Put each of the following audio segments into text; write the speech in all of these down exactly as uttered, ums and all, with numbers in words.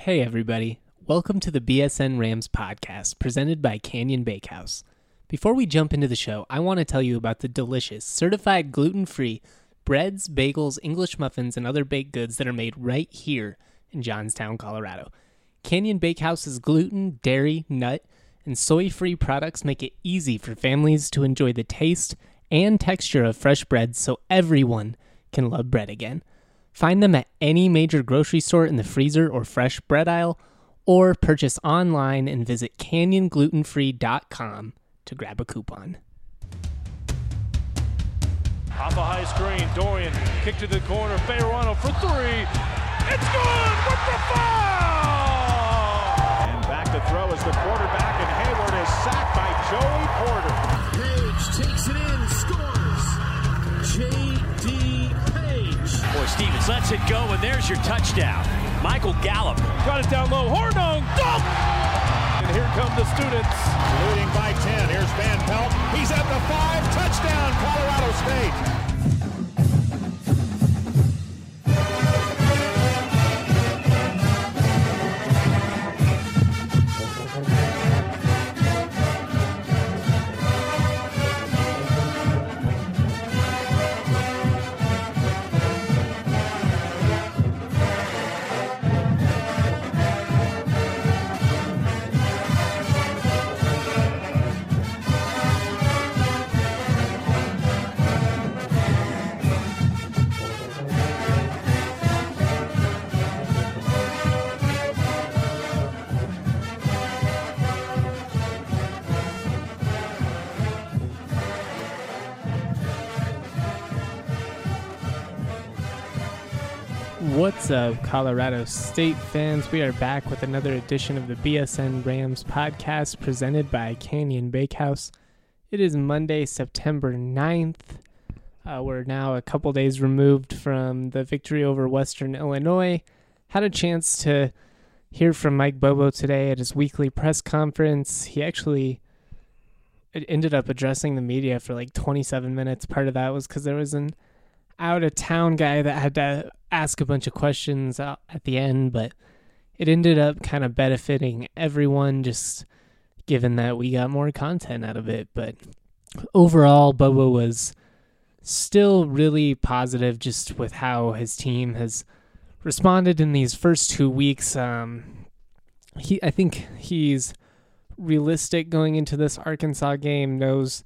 Hey everybody, welcome to the B S N Rams podcast presented by Canyon Bakehouse. Before we jump into the show, I want to tell you about the delicious, certified gluten-free breads, bagels, English muffins, and other baked goods that are made right here in Johnstown, Colorado. Canyon Bakehouse's gluten, dairy, nut, and soy-free products make it easy for families to enjoy the taste and texture of fresh bread so everyone can love bread again. Find them at any major grocery store in the freezer or fresh bread aisle, or purchase online and visit canyon gluten free dot com to grab a coupon. Off a high screen, Dorian, kick to the corner, Fayerano for three. It's good with the foul! And back to throw is the quarterback, and Hayward is sacked by Joey Porter. Page takes it in, scores. J D Page. Boy, Stevens lets it go, and there's your touchdown. Michael Gallup. Got it down low, Hornung, dunk! And here come the students. Leading by ten, here's Van Pelt. He's at the five, touchdown, Colorado State. What's up, Colorado State fans? We are back with another edition of the B S N Rams podcast presented by Canyon Bakehouse. It is Monday, September ninth. Uh, we're now a couple days removed from the victory over Western Illinois. Had a chance to hear from Mike Bobo today at his weekly press conference. He actually ended up addressing the media for like twenty-seven minutes. Part of that was because there was an out-of-town guy that had to ask a bunch of questions at the end, but it ended up kind of benefiting everyone just given that we got more content out of it. But overall, Bubba was still really positive just with how his team has responded in these first two weeks. Um, he, I think he's realistic going into this Arkansas game, knows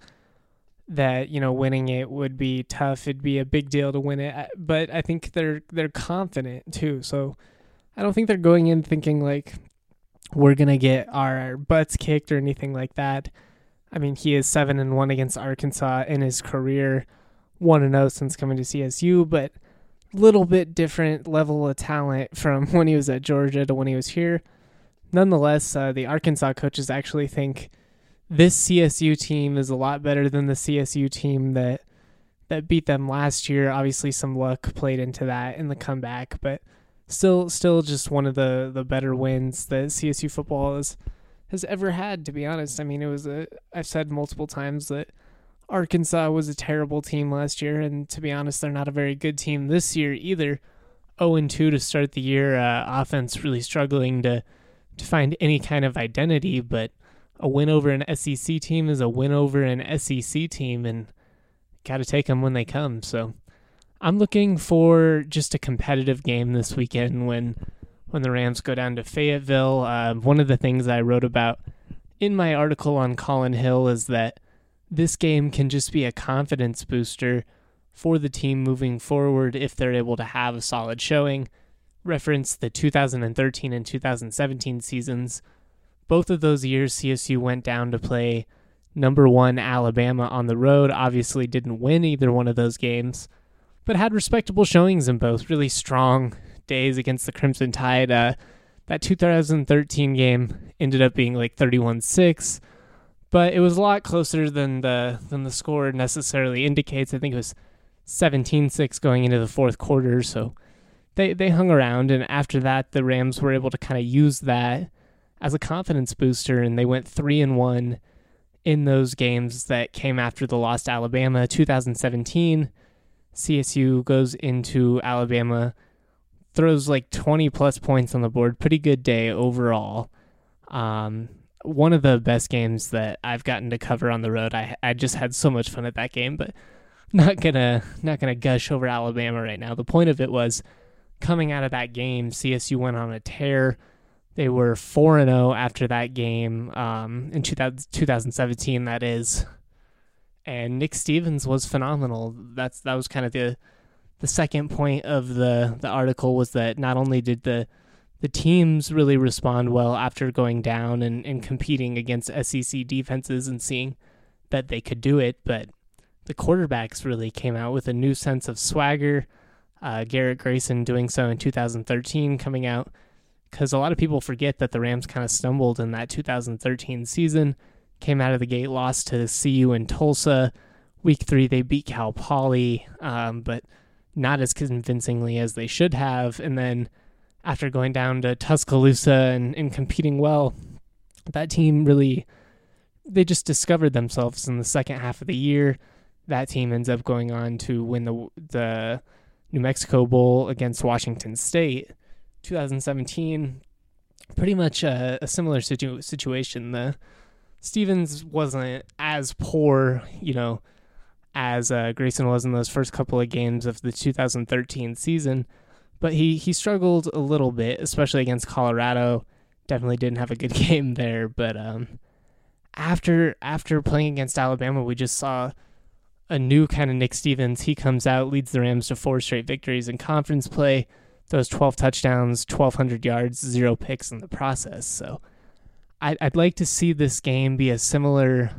that, you know, winning it would be tough. It'd be a big deal to win it, but I think they're they're confident too. So I don't think they're going in thinking like we're gonna get our butts kicked or anything like that. I mean, he is seven and one against Arkansas in his career, one and zero since coming to C S U, but little bit different level of talent from when he was at Georgia to when he was here. Nonetheless, uh, the Arkansas coaches actually think this C S U team is a lot better than the C S U team that that beat them last year. Obviously, some luck played into that in the comeback, but still, still just one of the, the better wins that C S U football has has ever had. To be honest, I mean, it was a. I've said multiple times that Arkansas was a terrible team last year, and to be honest, they're not a very good team this year either. zero and two to start the year. Uh, offense really struggling to to find any kind of identity, but a win over an S E C team is a win over an S E C team, and got to take them when they come. So I'm looking for just a competitive game this weekend when when the Rams go down to Fayetteville. Uh, one of the things I wrote about in my article on Colin Hill is that this game can just be a confidence booster for the team moving forward if they're able to have a solid showing. Reference the two thousand thirteen and two thousand seventeen seasons. Both of those years, C S U went down to play number one Alabama on the road. Obviously didn't win either one of those games, but had respectable showings in both. Really strong days against the Crimson Tide. Uh, that two thousand thirteen game ended up being like thirty-one six, but it was a lot closer than the than the score necessarily indicates. I think it was seventeen six going into the fourth quarter, so they, they hung around, and after that, the Rams were able to kind of use that as a confidence booster, and they went three and one in those games that came after the loss to Alabama. two thousand seventeen, C S U goes into Alabama throws like twenty plus points on the board. Pretty good day overall. Um, one of the best games that I've gotten to cover on the road. I I just had so much fun at that game, but not gonna not gonna gush over Alabama right now. The point of it was coming out of that game, C S U went on a tear. They were four and oh after that game um, in two thousand seventeen, that is. And Nick Stevens was phenomenal. That's that was kind of the the second point of the, the article, was that not only did the the teams really respond well after going down and, and competing against S E C defenses and seeing that they could do it, but the quarterbacks really came out with a new sense of swagger. Uh, Garrett Grayson doing so in two thousand thirteen, coming out, because a lot of people forget that the Rams kind of stumbled in that two thousand thirteen season, came out of the gate, lost to C U in Tulsa. Week three, they beat Cal Poly, um, but not as convincingly as they should have. And then after going down to Tuscaloosa and, and competing well, that team really, they just discovered themselves in the second half of the year. That team ends up going on to win the the New Mexico Bowl against Washington State. two thousand seventeen, pretty much a, a similar situ- situation. The Stevens wasn't as poor, you know, as uh, Grayson was in those first couple of games of the two thousand thirteen season, but he, he struggled a little bit, especially against Colorado. Definitely didn't have a good game there, but um, after after playing against Alabama, we just saw a new kind of Nick Stevens. He comes out, leads the Rams to four straight victories in conference play, those twelve touchdowns, twelve hundred yards, zero picks in the process. So I'd, I'd like to see this game be a similar,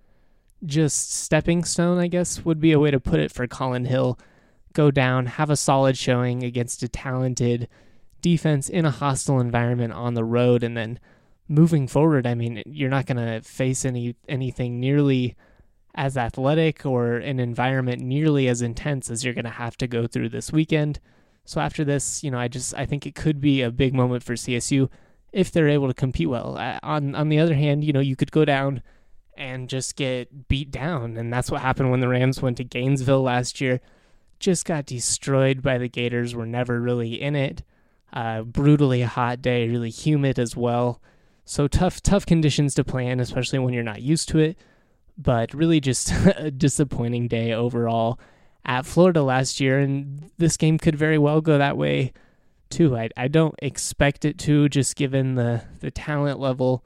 just stepping stone, I guess, would be a way to put it, for Colin Hill. Go down, have a solid showing against a talented defense in a hostile environment on the road, and then moving forward, I mean, you're not going to face any anything nearly as athletic or an environment nearly as intense as you're going to have to go through this weekend. So after this, you know, I just I think it could be a big moment for C S U if they're able to compete well. Uh, on on the other hand, you know, you could go down and just get beat down, and that's what happened when the Rams went to Gainesville last year. Just got destroyed by the Gators. Were never really in it. Uh, brutally hot day, really humid as well. So tough, tough conditions to play in, especially when you're not used to it. But really just a disappointing day overall at Florida last year, and this game could very well go that way too. I I don't expect it to, just given the, the talent level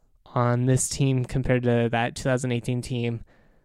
on this team compared to that two thousand eighteen team,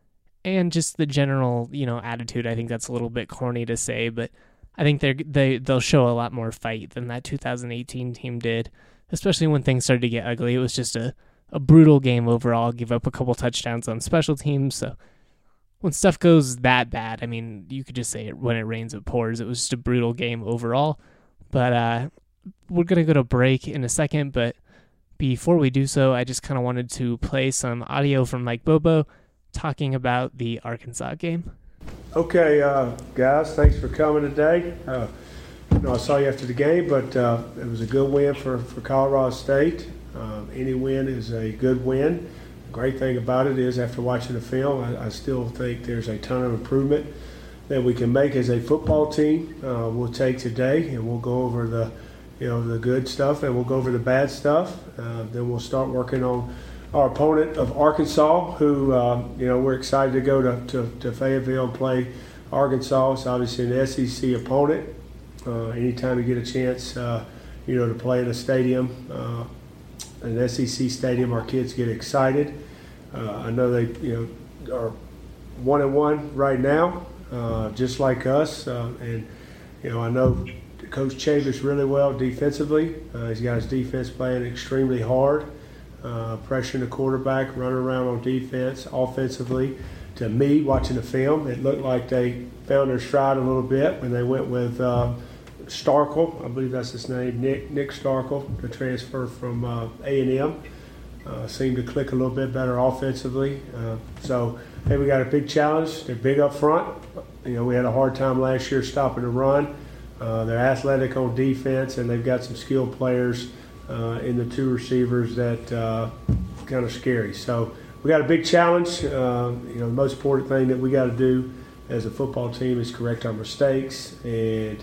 and just the general, you know, attitude. I think that's a little bit corny to say, but I think they they they'll show a lot more fight than that two thousand eighteen team did, especially when things started to get ugly. It was just a, a brutal game overall, give up a couple touchdowns on special teams. So when stuff goes that bad, I mean, you could just say it, when it rains, it pours. It was just a brutal game overall. But uh, we're going to go to break in a second, but before we do so, I just kind of wanted to play some audio from Mike Bobo talking about the Arkansas game. Okay, uh, guys, thanks for coming today. Uh, you know, I saw you after the game, but uh, it was a good win for, for Colorado State. Um, any win is a good win. The great thing about it is, after watching the film, I, I still think there's a ton of improvement that we can make as a football team. Uh, we'll take today, and we'll go over the, you know, the good stuff, and we'll go over the bad stuff. Uh, then we'll start working on our opponent of Arkansas, who, uh, you know, we're excited to go to, to, to Fayetteville and play Arkansas. It's obviously an S E C opponent. Uh, anytime you get a chance, uh, you know, to play in a stadium, uh, an S E C stadium, our kids get excited. Uh, I know they, you know, are one and one right now, uh, just like us. Uh, and, you know, I know Coach Chavis really well defensively. Uh, he's got his defense playing extremely hard. Uh, pressuring the quarterback, running around on defense. Offensively, to me, watching the film, it looked like they found their stride a little bit when they went with uh, Starkel. I believe that's his name, Nick Nick Starkel, the transfer from uh, A and M. Uh, seemed to click a little bit better offensively. Uh, so, hey, we got a big challenge. They're big up front. You know, we had a hard time last year stopping the run. Uh, they're athletic on defense, and they've got some skilled players Uh, in the two receivers that uh, kind of scary. So we got a big challenge. Uh, you know, the most important thing that we got to do as a football team is correct our mistakes and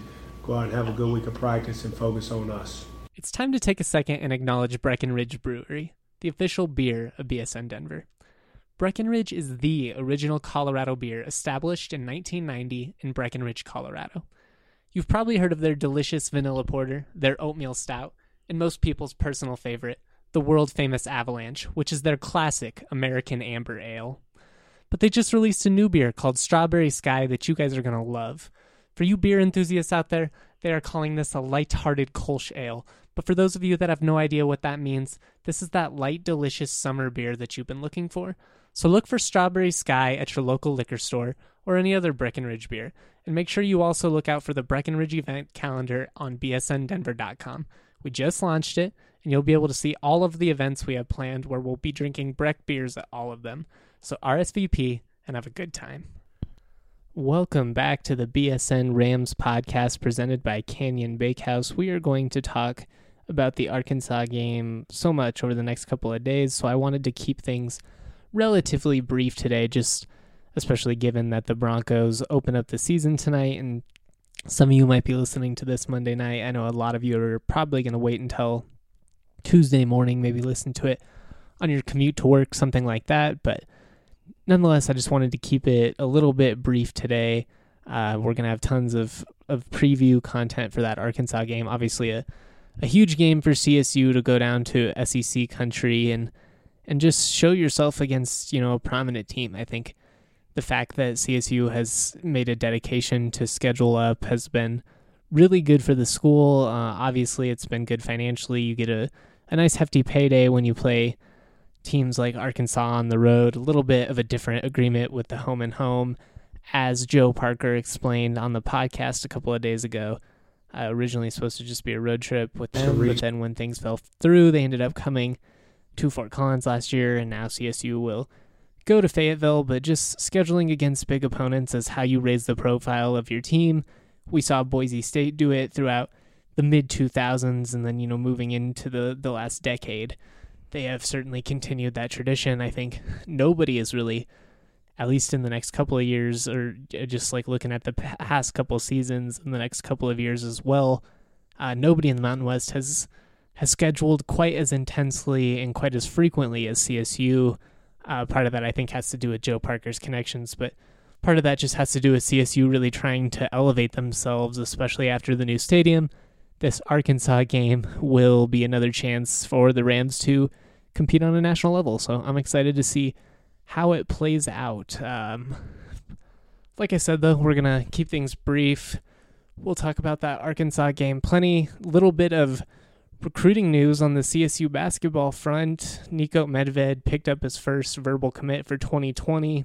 go out and have a good week of practice and focus on us. It's time to take a second and acknowledge Breckenridge Brewery, the official beer of B S N Denver. Breckenridge is the original Colorado beer established in nineteen ninety in Breckenridge, Colorado. You've probably heard of their delicious vanilla porter, their oatmeal stout, and most people's personal favorite, the world-famous Avalanche, which is their classic American Amber Ale. But they just released a new beer called Strawberry Sky that you guys are going to love. For you beer enthusiasts out there, they are calling this a light-hearted Kolsch Ale. But for those of you that have no idea what that means, this is that light, delicious summer beer that you've been looking for. So look for Strawberry Sky at your local liquor store or any other Breckenridge beer. And make sure you also look out for the Breckenridge event calendar on b s n denver dot com. We just launched it, and you'll be able to see all of the events we have planned where we'll be drinking Breck beers at all of them. So R S V P and have a good time. Welcome back to the B S N Rams podcast presented by Canyon Bakehouse. We are going to talk about the Arkansas game so much over the next couple of days, so I wanted to keep things relatively brief today, just especially given that the Broncos open up the season tonight, and some of you might be listening to this Monday night. I know a lot of you are probably going to wait until Tuesday morning, maybe listen to it on your commute to work, something like that, but nonetheless, I just wanted to keep it a little bit brief today. Uh, we're going to have tons of, of preview content for that Arkansas game. Obviously, a, a huge game for C S U to go down to S E C country and and just show yourself against, you know, a prominent team. I think the fact that C S U has made a dedication to schedule up has been really good for the school. Uh, obviously, it's been good financially. You get a, a nice hefty payday when you play teams like Arkansas on the road, a little bit of a different agreement with the home and home, as Joe Parker explained on the podcast a couple of days ago. Uh, originally supposed to just be a road trip with them, but then when things fell through, they ended up coming to Fort Collins last year, and now C S U will go to Fayetteville, but just scheduling against big opponents is how you raise the profile of your team. We saw Boise State do it throughout the mid two thousands, and then, you know, moving into the, the last decade. They have certainly continued that tradition. I think nobody is really, at least in the next couple of years, or just like looking at the past couple of seasons in the next couple of years as well, uh, nobody in the Mountain West has has scheduled quite as intensely and quite as frequently as C S U. Uh, part of that, I think, has to do with Joe Parker's connections, but part of that just has to do with C S U really trying to elevate themselves, especially after the new stadium. This Arkansas game will be another chance for the Rams to compete on a national level, so I'm excited to see how it plays out. Um, like I said, though, we're going to keep things brief. We'll talk about that Arkansas game. Plenty, little bit of recruiting news on the C S U basketball front. Nico Medved picked up his first verbal commit for twenty twenty.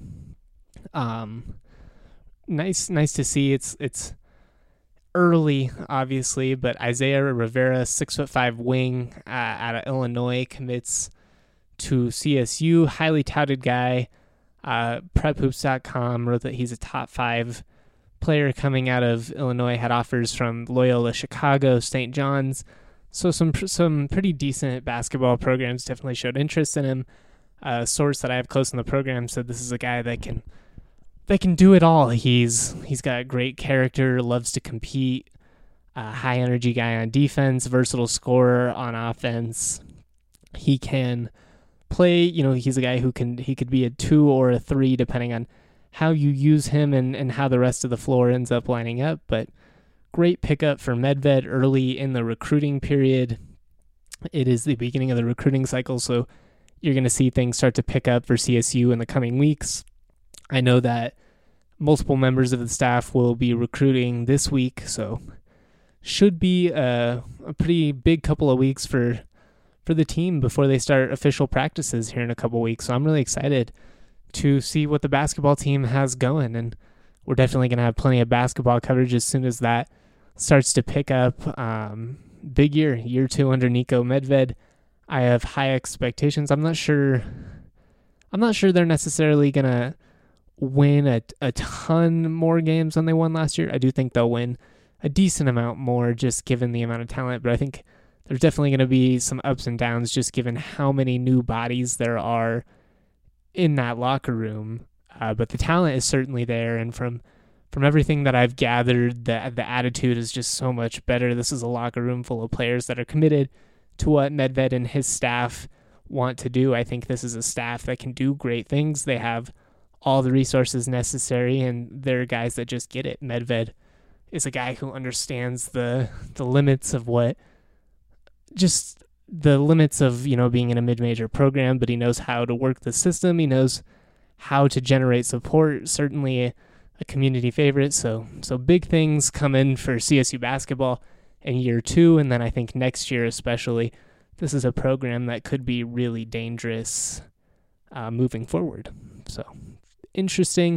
Um, nice, nice to see. It's it's early, obviously, but Isaiah Rivera, six foot five wing uh, out of Illinois, commits to C S U. Highly touted guy. Uh, prep hoops dot com wrote that he's a top five player coming out of Illinois. Had offers from Loyola Chicago, Saint John's. So some some pretty decent basketball programs definitely showed interest in him. A source that I have close in the program said this is a guy that can that can do it all. He's he's got great character, loves to compete, a high energy guy on defense, versatile scorer on offense. He can play, you know, he's a guy who can he could be a two or a three depending on how you use him and, and how the rest of the floor ends up lining up, but great pickup for Medved early in the recruiting period. It is the beginning of the recruiting cycle, so you're going to see things start to pick up for C S U in the coming weeks. I know that multiple members of the staff will be recruiting this week, so should be a, a pretty big couple of weeks for for the team before they start official practices here in a couple of weeks. So I'm really excited to see what the basketball team has going, and we're definitely going to have plenty of basketball coverage as soon as that starts to pick up. Um, big year, year two under Nico Medved. I have high expectations. I'm not sure. I'm not sure they're necessarily gonna win a a ton more games than they won last year. I do think they'll win a decent amount more, just given the amount of talent. But I think there's definitely going to be some ups and downs, just given how many new bodies there are in that locker room. Uh, but the talent is certainly there, and from from everything that I've gathered, the, the attitude is just so much better. This is a locker room full of players that are committed to what Medved and his staff want to do. I think this is a staff that can do great things. They have all the resources necessary, and they're guys that just get it. Medved is a guy who understands the the limits of what, just the limits of, you know, being in a mid-major program, but he knows how to work the system. He knows how to generate support, certainly a, a community favorite. So, so big things come in for C S U basketball in year two, and then I think next year especially, this is a program that could be really dangerous uh, moving forward. So, interesting.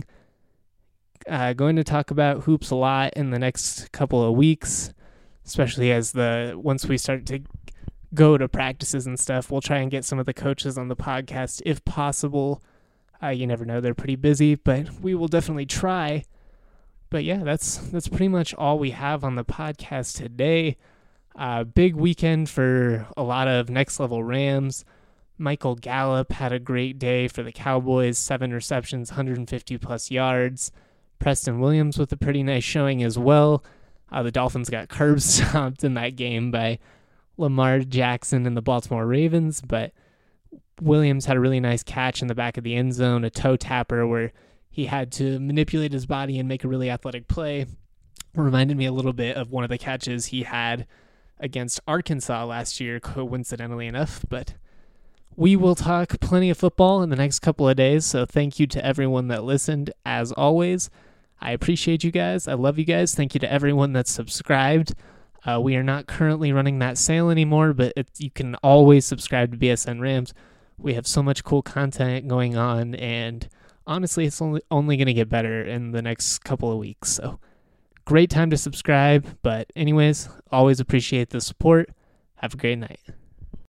Uh, going to talk about hoops a lot in the next couple of weeks, especially as the once we start to go to practices and stuff. We'll try and get some of the coaches on the podcast if possible. Uh, you never know, they're pretty busy, but we will definitely try. But yeah, that's that's pretty much all we have on the podcast today. Uh, big weekend for a lot of Next Level Rams. Michael Gallup had a great day for the Cowboys, seven receptions, one hundred fifty plus yards. Preston Williams with a pretty nice showing as well. Uh, the Dolphins got curb stomped in that game by Lamar Jackson and the Baltimore Ravens, but Williams had a really nice catch in the back of the end zone, a toe tapper where he had to manipulate his body and make a really athletic play. Reminded me a little bit of one of the catches he had against Arkansas last year, coincidentally enough, but we will talk plenty of football in the next couple of days, so thank you to everyone that listened, as always. I appreciate you guys. I love you guys. Thank you to everyone that's subscribed. Uh, we are not currently running that sale anymore, but it, you can always subscribe to B S N Rams. We have so much cool content going on, and honestly, it's only, only going to get better in the next couple of weeks. So great time to subscribe, but anyways, always appreciate the support. Have a great night.